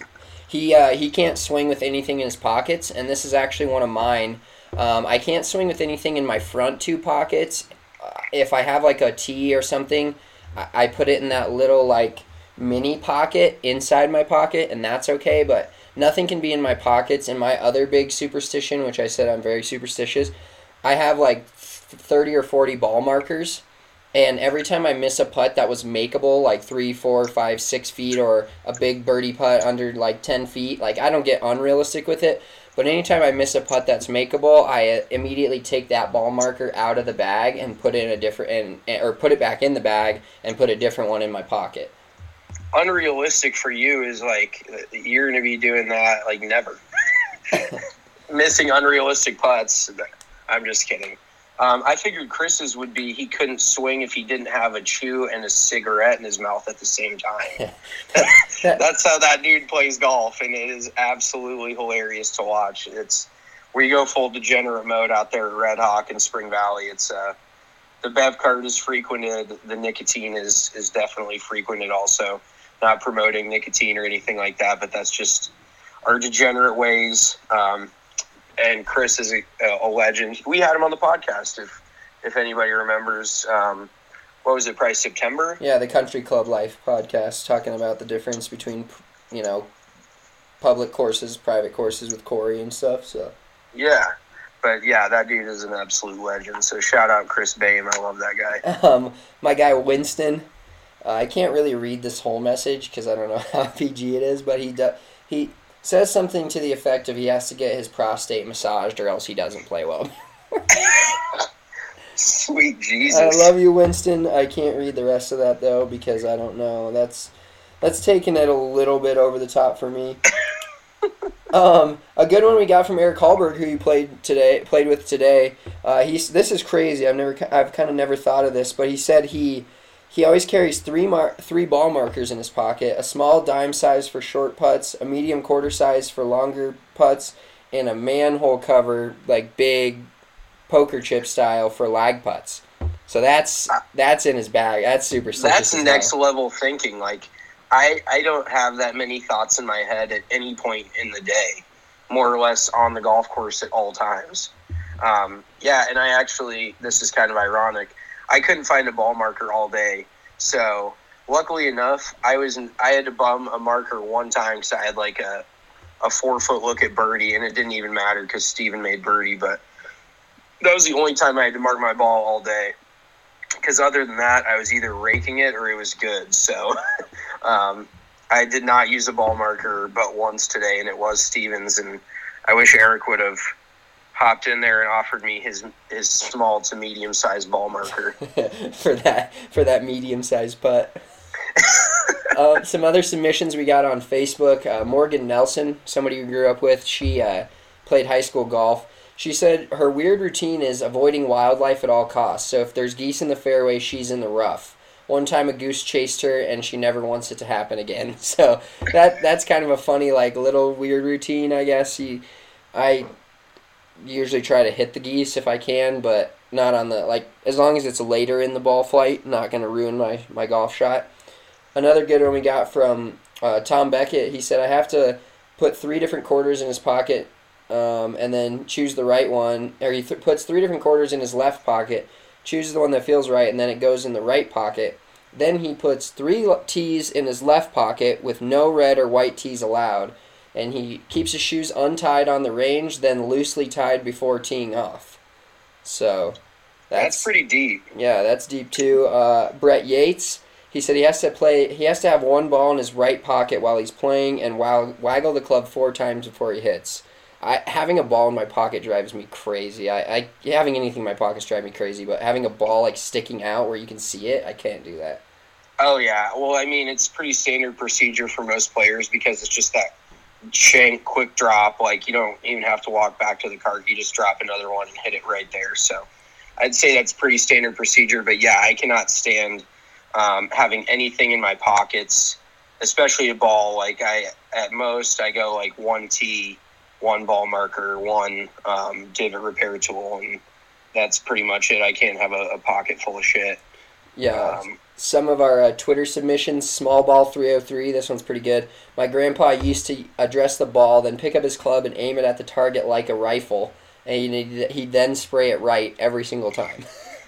He can't swing with anything in his pockets, and this is actually one of mine. I can't swing with anything in my front 2 pockets. If I have a tee or something, I put it in that little mini pocket inside my pocket, and that's okay, but nothing can be in my pockets. And my other big superstition, which I said I'm very superstitious, I have 30 or 40 ball markers. And every time I miss a putt that was makeable, like 3, 4, 5, 6 feet, or a big birdie putt under like 10 feet, like I don't get unrealistic with it. But anytime I miss a putt that's makeable, I immediately take that ball marker out of the bag and put it in a different, or put it back in the bag and put a different one in my pocket. Unrealistic for you is like you're going to be doing that like never. Missing unrealistic putts. I'm just kidding. I figured Chris's would be he couldn't swing if he didn't have a chew and a cigarette in his mouth at the same time. That's how that dude plays golf, and it is absolutely hilarious to watch. It's where you go full degenerate mode out there at Red Hawk in Spring Valley. It's the Bev cart is frequented. The nicotine is definitely frequented also. Not promoting nicotine or anything like that, but that's just our degenerate ways. And Chris is a legend. We had him on the podcast, if anybody remembers. What was it, probably September? Yeah, the Country Club Life podcast, talking about the difference between, public courses, private courses with Corey and stuff. So yeah, but yeah, that dude is an absolute legend. So shout out Chris Bame. I love that guy. My guy Winston. I can't really read this whole message because I don't know how PG it is, but he says something to the effect of he has to get his prostate massaged or else he doesn't play well. Sweet Jesus. I love you, Winston. I can't read the rest of that, though, because I don't know. That's taking it a little bit over the top for me. A good one we got from Eric Hallberg, who you played with today. This is crazy. I've kind of never thought of this, but he said he always carries three ball markers in his pocket: a small dime size for short putts, a medium quarter size for longer putts, and a manhole cover, like big poker chip style, for lag putts. So that's in his bag. That's superstitious. That's next level thinking. Like I don't have that many thoughts in my head at any point in the day, more or less on the golf course at all times. Yeah, and I actually, this is kind of ironic, I couldn't find a ball marker all day. So luckily enough, I had to bum a marker one time because I had like a 4-foot look at birdie, and it didn't even matter because Steven made birdie. But that was the only time I had to mark my ball all day. Because other than that, I was either raking it or it was good. So I did not use a ball marker but once today, and it was Steven's. And I wish Eric would have hopped in there and offered me his small to medium sized ball marker for that medium sized putt. Some other submissions we got on Facebook. Morgan Nelson, somebody we grew up with, she played high school golf. She said her weird routine is avoiding wildlife at all costs. So if there's geese in the fairway, she's in the rough. One time a goose chased her, and she never wants it to happen again. So that's kind of a funny, like, little weird routine, I guess. I usually try to hit the geese if I can, but not on the, like, as long as it's later in the ball flight, not going to ruin my golf shot. Another good one we got from Tom Beckett. He said, I have to put 3 different quarters in his pocket and then choose the right one. Or he puts 3 different quarters in his left pocket, chooses the one that feels right, and then it goes in the right pocket. Then he puts 3 tees in his left pocket with no red or white tees allowed. And he keeps his shoes untied on the range, then loosely tied before teeing off. So that's pretty deep. Yeah, that's deep too. Brett Yates, he said he has to have one ball in his right pocket while he's playing and waggle the club 4 times before he hits. Having a ball in my pocket drives me crazy. Having anything in my pockets drives me crazy, but having a ball like sticking out where you can see it, I can't do that. Oh yeah, well I mean it's pretty standard procedure for most players because it's just that shank quick drop. Like you don't even have to walk back to the cart; you just drop another one and hit it right there. So I'd say that's pretty standard procedure. But yeah, I cannot stand having anything in my pockets, especially a ball. Like at most I go like 1 tee, 1 ball marker, 1 divot repair tool, and that's pretty much it. I can't have a pocket full of shit. Yeah. Some of our Twitter submissions, Small Ball 303, this one's pretty good. My grandpa used to address the ball, then pick up his club and aim it at the target like a rifle, and he'd then spray it right every single time.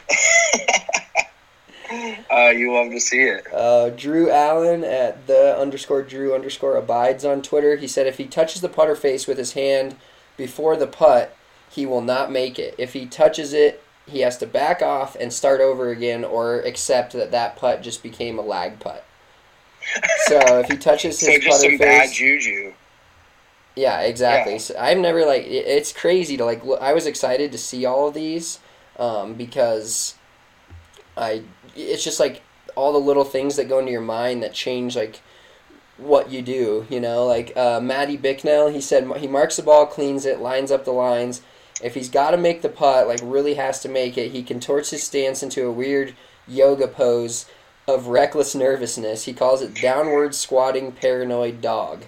You love to see it. Drew Allen at _Drew_abides on Twitter. He said if he touches the putter face with his hand before the putt, he will not make it. If he touches it he has to back off and start over again, or accept that putt just became a lag putt. So if he touches his so just putter some face, bad juju. yeah, exactly. Yeah. So I've never it's crazy to I was excited to see all of these, because it's just like all the little things that go into your mind that change like what you do. Matty Bicknell, he said he marks the ball, cleans it, lines up the lines. If he's got to make the putt, like really has to make it, he contorts his stance into a weird yoga pose of reckless nervousness. He calls it downward squatting paranoid dog.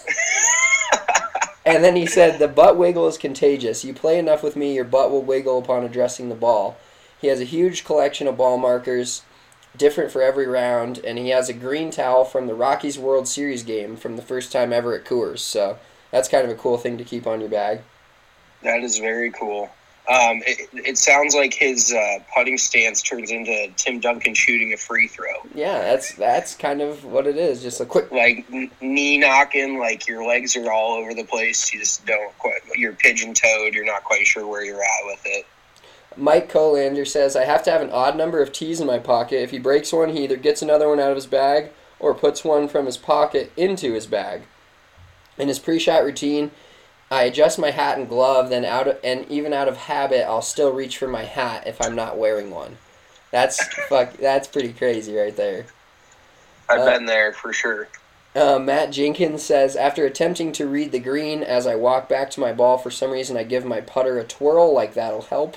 And then he said, the butt wiggle is contagious. You play enough with me, your butt will wiggle upon addressing the ball. He has a huge collection of ball markers, different for every round, and he has a green towel from the Rockies World Series game from the first time ever at Coors. So that's kind of a cool thing to keep on your bag. That is very cool. It sounds like his putting stance turns into Tim Duncan shooting a free throw. Yeah, that's kind of what it is. Just a quick, like knee knocking, like your legs are all over the place. You just don't quite. You're pigeon toed. You're not quite sure where you're at with it. Mike Colander says, I have to have an odd number of tees in my pocket. If he breaks one, he either gets another one out of his bag or puts one from his pocket into his bag. In his pre-shot routine, I adjust my hat and glove, then even out of habit, I'll still reach for my hat if I'm not wearing one. That's pretty crazy right there. I've been there for sure. Matt Jenkins says, after attempting to read the green as I walk back to my ball, for some reason I give my putter a twirl, like that'll help.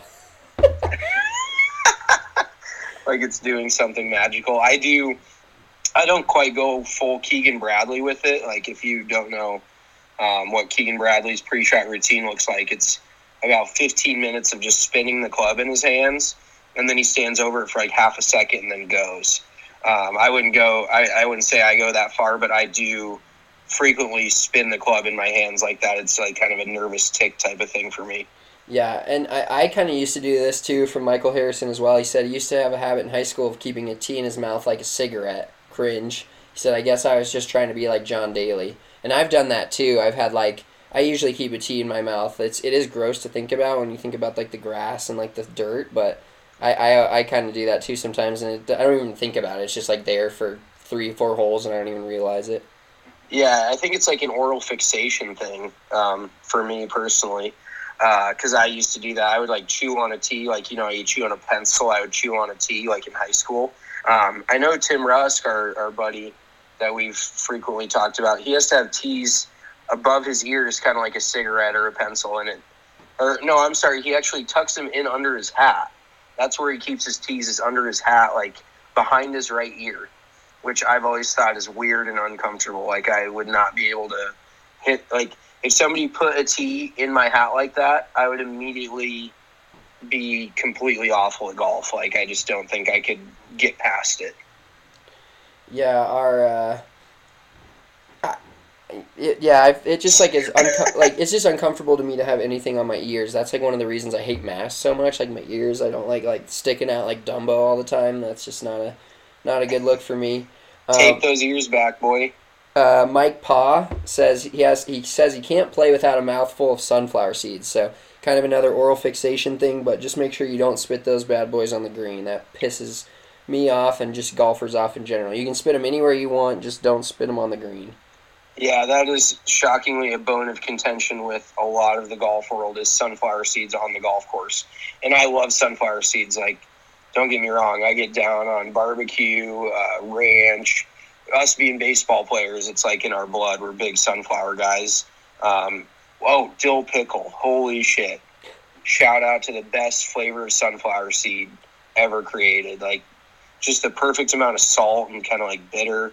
Like it's doing something magical. I don't quite go full Keegan Bradley with it. Like if you don't know what Keegan Bradley's pre-shot routine looks like, it's about 15 minutes of just spinning the club in his hands, and then he stands over it for like half a second and then goes. I wouldn't say I go that far, but I do frequently spin the club in my hands like that. It's like kind of a nervous tick type of thing for me. Yeah, and I kind of used to do this too from Michael Harrison as well. He said he used to have a habit in high school of keeping a tea in his mouth like a cigarette. Cringe. He said, I guess I was just trying to be like John Daly. And I've done that too. I've had I usually keep a tea in my mouth. It is gross to think about when you think about like the grass and like the dirt, but I kind of do that too sometimes, and I don't even think about it. It's just like there for 3-4 holes, and I don't even realize it. Yeah, I think it's like an oral fixation thing for me personally, because I used to do that. I would like chew on a tee, like you chew on a pencil. I would chew on a tee like in high school. I know Tim Rusk, our buddy that we've frequently talked about, he has to have tees above his ears, kind of like a cigarette or a pencil in it. Or no, I'm sorry, he actually tucks them in under his hat. That's where he keeps his tees, is under his hat, like behind his right ear, which I've always thought is weird and uncomfortable. Like I would not be able to hit, like if somebody put a tee in my hat like that, I would immediately be completely awful at golf. Like I just don't think I could get past it. Yeah, it just like is it's just uncomfortable to me to have anything on my ears. That's like one of the reasons I hate masks so much. Like my ears, I don't like sticking out like Dumbo all the time. That's just not a good look for me. Tape those ears back, boy. Mike Paw says he can't play without a mouthful of sunflower seeds. So kind of another oral fixation thing, but just make sure you don't spit those bad boys on the green. That pisses me off and just golfers off in general. You can spit them anywhere you want, just don't spit them on the green. Yeah, that is shockingly a bone of contention with a lot of the golf world, is sunflower seeds on the golf course. And I love sunflower seeds. Like, don't get me wrong, I get down on barbecue, ranch. Us being baseball players, it's like in our blood. We're big sunflower guys. Dill pickle. Holy shit. Shout out to the best flavor of sunflower seed ever created. Like, just the perfect amount of salt and kind of like bitter.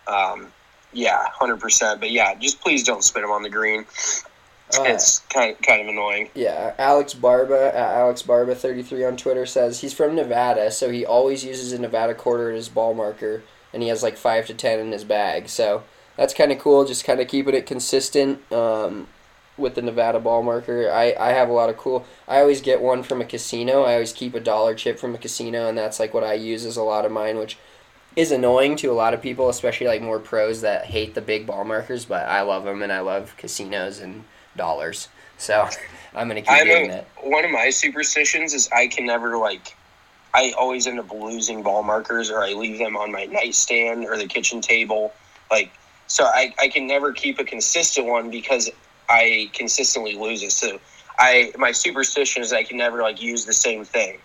100%. But yeah, just please don't spit them on the green. It's kind of annoying. Yeah, Alex Barba 33 on Twitter says he's from Nevada, so he always uses a Nevada quarter as his ball marker, and he has like 5 to 10 in his bag. So that's kind of cool, just kind of keeping it consistent with the Nevada ball marker. I have a lot of cool. I always get one from a casino. I always keep a dollar chip from a casino, and that's like what I use as a lot of mine, which is annoying to a lot of people, especially like more pros that hate the big ball markers, but I love them, and I love casinos and dollars. So I'm gonna keep doing that. One of my superstitions is I can never I always end up losing ball markers, or I leave them on my nightstand or the kitchen table. So I can never keep a consistent one because I consistently lose it. So my superstition is I can never use the same thing.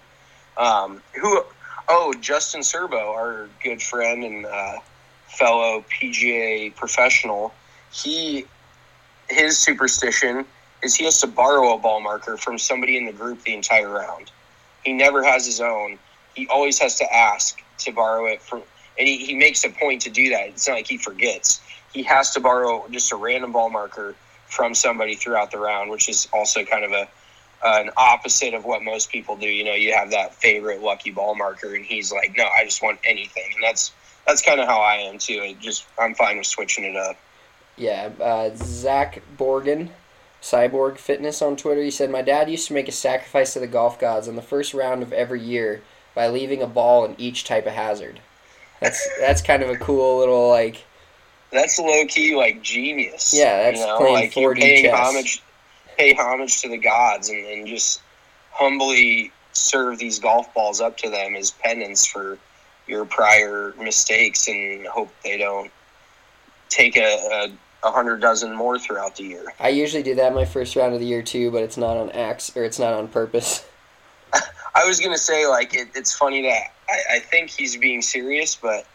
Justin Serbo, our good friend and fellow PGA professional, his superstition is he has to borrow a ball marker from somebody in the group the entire round. He never has his own. He always has to ask to borrow it from, and he makes a point to do that. It's not like he forgets. He has to borrow just a random ball marker from somebody throughout the round, which is also kind of an opposite of what most people do. You have that favorite lucky ball marker, and he's like, no, I just want anything. And that's kind of how I am too. I'm fine with switching it up. Yeah, Zach Borgen, Cyborg Fitness on Twitter, he said, my dad used to make a sacrifice to the golf gods on the first round of every year by leaving a ball in each type of hazard. That's kind of a cool little, That's low-key, genius. Yeah, that's playing 4D chess. Pay homage to the gods and just humbly serve these golf balls up to them as penance for your prior mistakes, and hope they don't take a 100 dozen more throughout the year. I usually do that my first round of the year too, but it's not on it's not on purpose. I was gonna say it's funny that I think he's being serious, but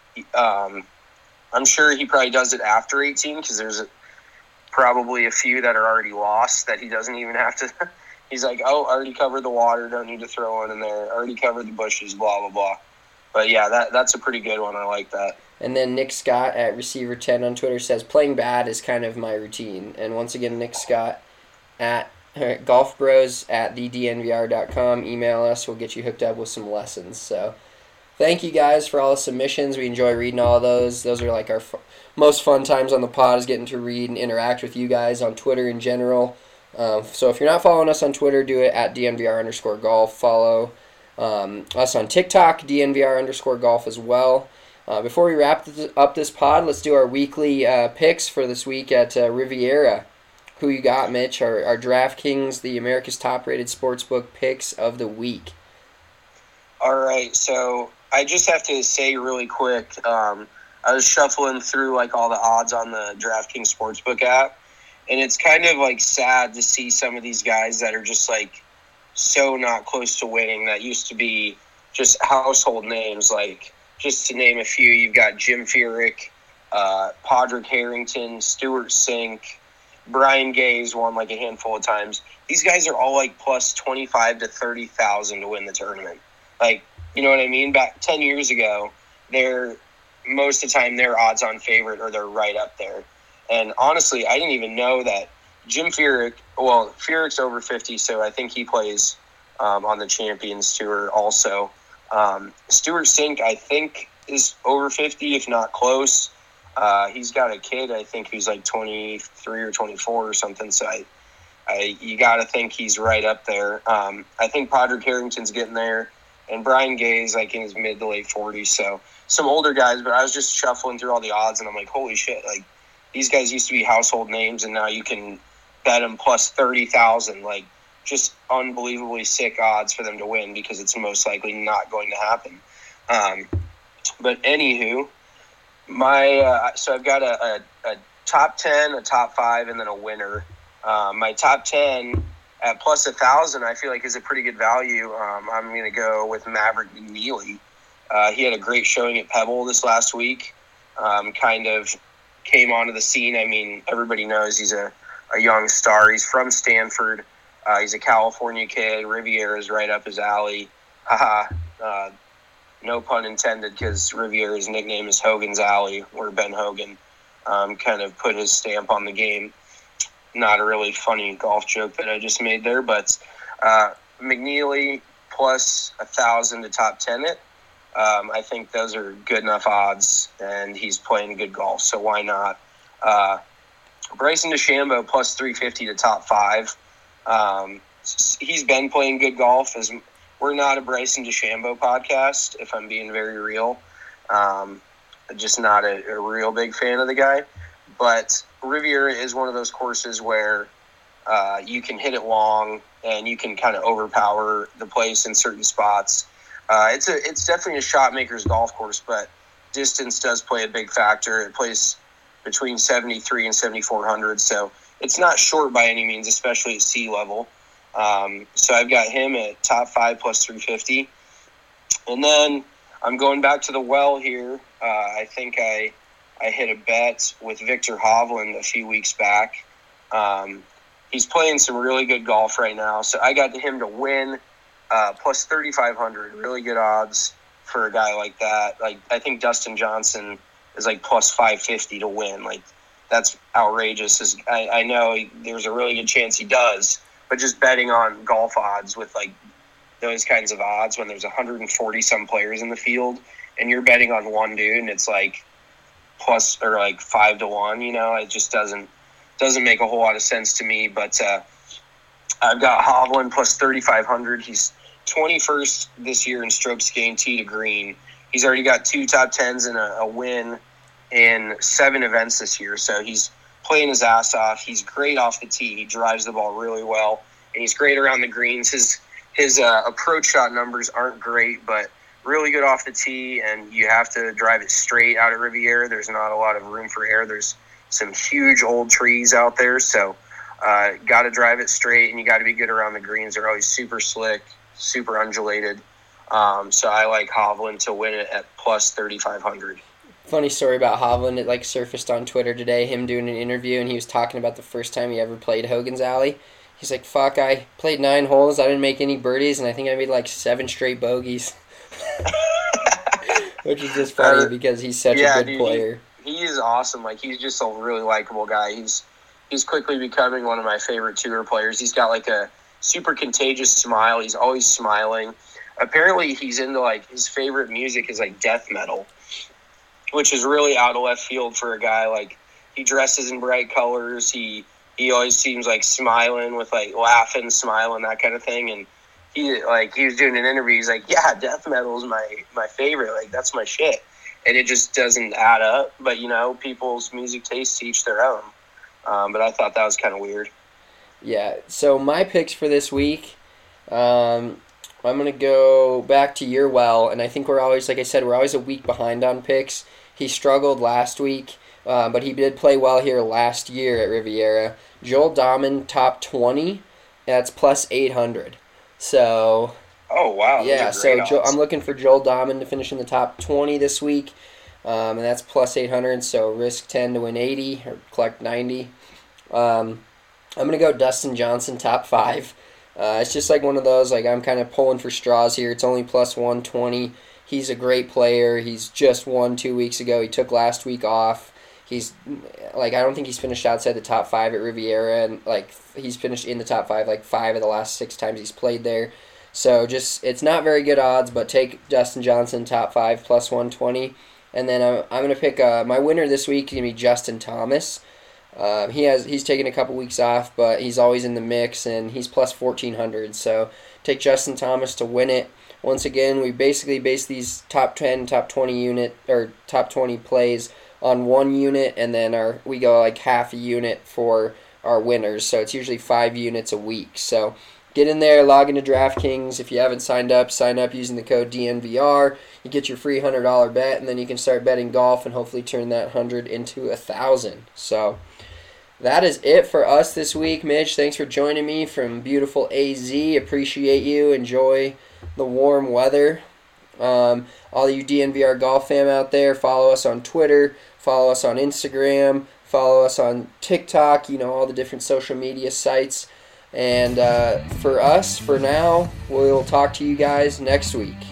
I'm sure he probably does it after 18 because there's probably a few that are already lost that he doesn't even have to. He's like, oh, already covered the water, don't need to throw one in there. Already covered the bushes, blah blah blah. But yeah, that's a pretty good one. I like that. And then Nick Scott at Receiver10 on Twitter says, playing bad is kind of my routine. And once again, Nick Scott at golfbros@thednvr.com. Email us. We'll get you hooked up with some lessons. So thank you guys for all the submissions. We enjoy reading all of those. Those are our most fun times on the pod, is getting to read and interact with you guys on Twitter in general. So if you're not following us on Twitter, do it at DNVR_golf. Follow us on TikTok, DNVR_golf as well. Before we wrap up this pod, let's do our weekly picks for this week at Riviera. Who you got, Mitch? Our DraftKings, the America's top-rated sportsbook picks of the week. All right, so I just have to say really quick, I was shuffling through all the odds on the DraftKings Sportsbook app, and it's kind of sad to see some of these guys that are just so not close to winning that used to be just household names. Just to name a few, you've got Jim Furyk, Padraig Harrington, Stuart Sink, Brian Gay's won a handful of times. These guys are all plus 25 to 30,000 to win the tournament. You know what I mean? Back 10 years ago, most of the time their odds-on favorite, or they're right up there. And honestly, I didn't even know that Jim Furyk, Furyk's over 50, so I think he plays on the Champions Tour also. Stuart Sink, I think, is over 50, if not close. He's got a kid, I think, who's 23 or 24 or something, so you got to think he's right up there. I think Padraig Harrington's getting there, and Brian Gay's in his mid to late 40s, so some older guys, but I was just shuffling through all the odds, and I'm like, holy shit, these guys used to be household names, and now you can bet them plus 30,000, just unbelievably sick odds for them to win because it's most likely not going to happen. But anywho, so I've got a top 10, a top 5, and then a winner. My top 10 at plus 1,000, I feel is a pretty good value. I'm going to go with Maverick McNealy. He had a great showing at Pebble this last week. Kind of came onto the scene. I mean, everybody knows he's a young star. He's from Stanford. He's a California kid. Riviera is right up his alley. No pun intended, because Riviera's nickname is Hogan's Alley, where Ben Hogan kind of put his stamp on the game. Not a really funny golf joke that I just made there, but McNealy plus 1,000 to top 10 it. I think those are good enough odds, and he's playing good golf, so why not? Bryson DeChambeau plus 350 to top 5. He's been playing good golf. We're not a Bryson DeChambeau podcast, if I'm being very real. Just not a real big fan of the guy. But Riviera is one of those courses where You can hit it long, and you can kind of overpower the place in certain spots. It's definitely a shot maker's golf course, but distance does play a big factor. It plays between 73 and 7,400, so it's not short by any means, especially at sea level. So I've got him at top 5 plus 350. And then I'm going back to the well here. I think I hit a bet with Victor Hovland a few weeks back. He's playing some really good golf right now, so I got him to win plus 3,500. Really good odds for a guy like that. Like, I think Dustin Johnson is like plus 550 to win. Like, that's outrageous. I know there's a really good chance he does, but just betting on golf odds with like those kinds of odds when there's 140 some players in the field and you're betting on one dude and it's like plus or like 5 to 1, you know, it just doesn't make a whole lot of sense to me. But I've got Hovland plus 3,500. He's 21st this year in strokes gained tee to green. He's already got 2 top 10s and a win in 7 events this year. So he's playing his ass off. He's great off the tee. He drives the ball really well, and he's great around the greens. His approach shot numbers aren't great, but really good off the tee, and you have to drive it straight out of Riviera. There's not a lot of room for error. There's some huge old trees out there, so got to drive it straight, and you got to be good around the greens. They're always super slick, super undulated. So I like Hovland to win it at plus 3,500. Funny story about Hovland. It like surfaced on Twitter today, him doing an interview, and he was talking about the first time he ever played Hogan's Alley. He's like, fuck, I played 9 holes, I didn't make any birdies, and I think I made like 7 straight bogeys. Which is just funny because he's such a good player. He is awesome. Like, he's just a really likable guy. He's quickly becoming one of my favorite tour players. He's got like a super contagious smile. He's always smiling. Apparently he's into like, his favorite music is like death metal, which is really out of left field for a guy. Like, he dresses in bright colors. He always seems like smiling with like laughing, smiling, that kind of thing. And he was doing an interview. He's like, yeah, death metal is my favorite. Like, that's my shit. And it just doesn't add up. But, you know, people's music tastes each their own. But I thought that was kind of weird. Yeah. So my picks for this week, I'm going to go back to your well. And I think we're always, like I said, we're always a week behind on picks. He struggled last week, but he did play well here last year at Riviera. Joel Dahman, top 20. That's plus 800. So... Oh, wow. Yeah, so I'm looking for Joel Dahman to finish in the top 20 this week, and that's plus 800, so risk 10 to win 80 or collect 90. I'm going to go Dustin Johnson, top 5. It's just like one of those, like, I'm kind of pulling for straws here. It's only plus 120. He's a great player. He's just won 2 weeks ago. He took last week off. He's, like, I don't think he's finished outside the top 5 at Riviera, and, like, he's finished in the top 5, like, 5 of the last 6 times he's played there. So just, it's not very good odds, but take Dustin Johnson, top 5, plus 120. And then I'm going to pick, my winner this week is going to be Justin Thomas. He's taken a couple weeks off, but he's always in the mix, and he's plus 1,400. So take Justin Thomas to win it. Once again, we basically base these top 10, top 20 top 20 plays on 1 unit, and then we go like half a unit for our winners. So it's usually 5 units a week. So get in there, log into DraftKings. If you haven't signed up, sign up using the code DNVR. You get your free $100 bet, and then you can start betting golf and hopefully turn that 100 into 1,000. So that is it for us this week. Mitch, thanks for joining me from beautiful AZ. Appreciate you. Enjoy the warm weather. All you DNVR golf fam out there, follow us on Twitter, follow us on Instagram, follow us on TikTok, all the different social media sites. And for us, for now, we'll talk to you guys next week.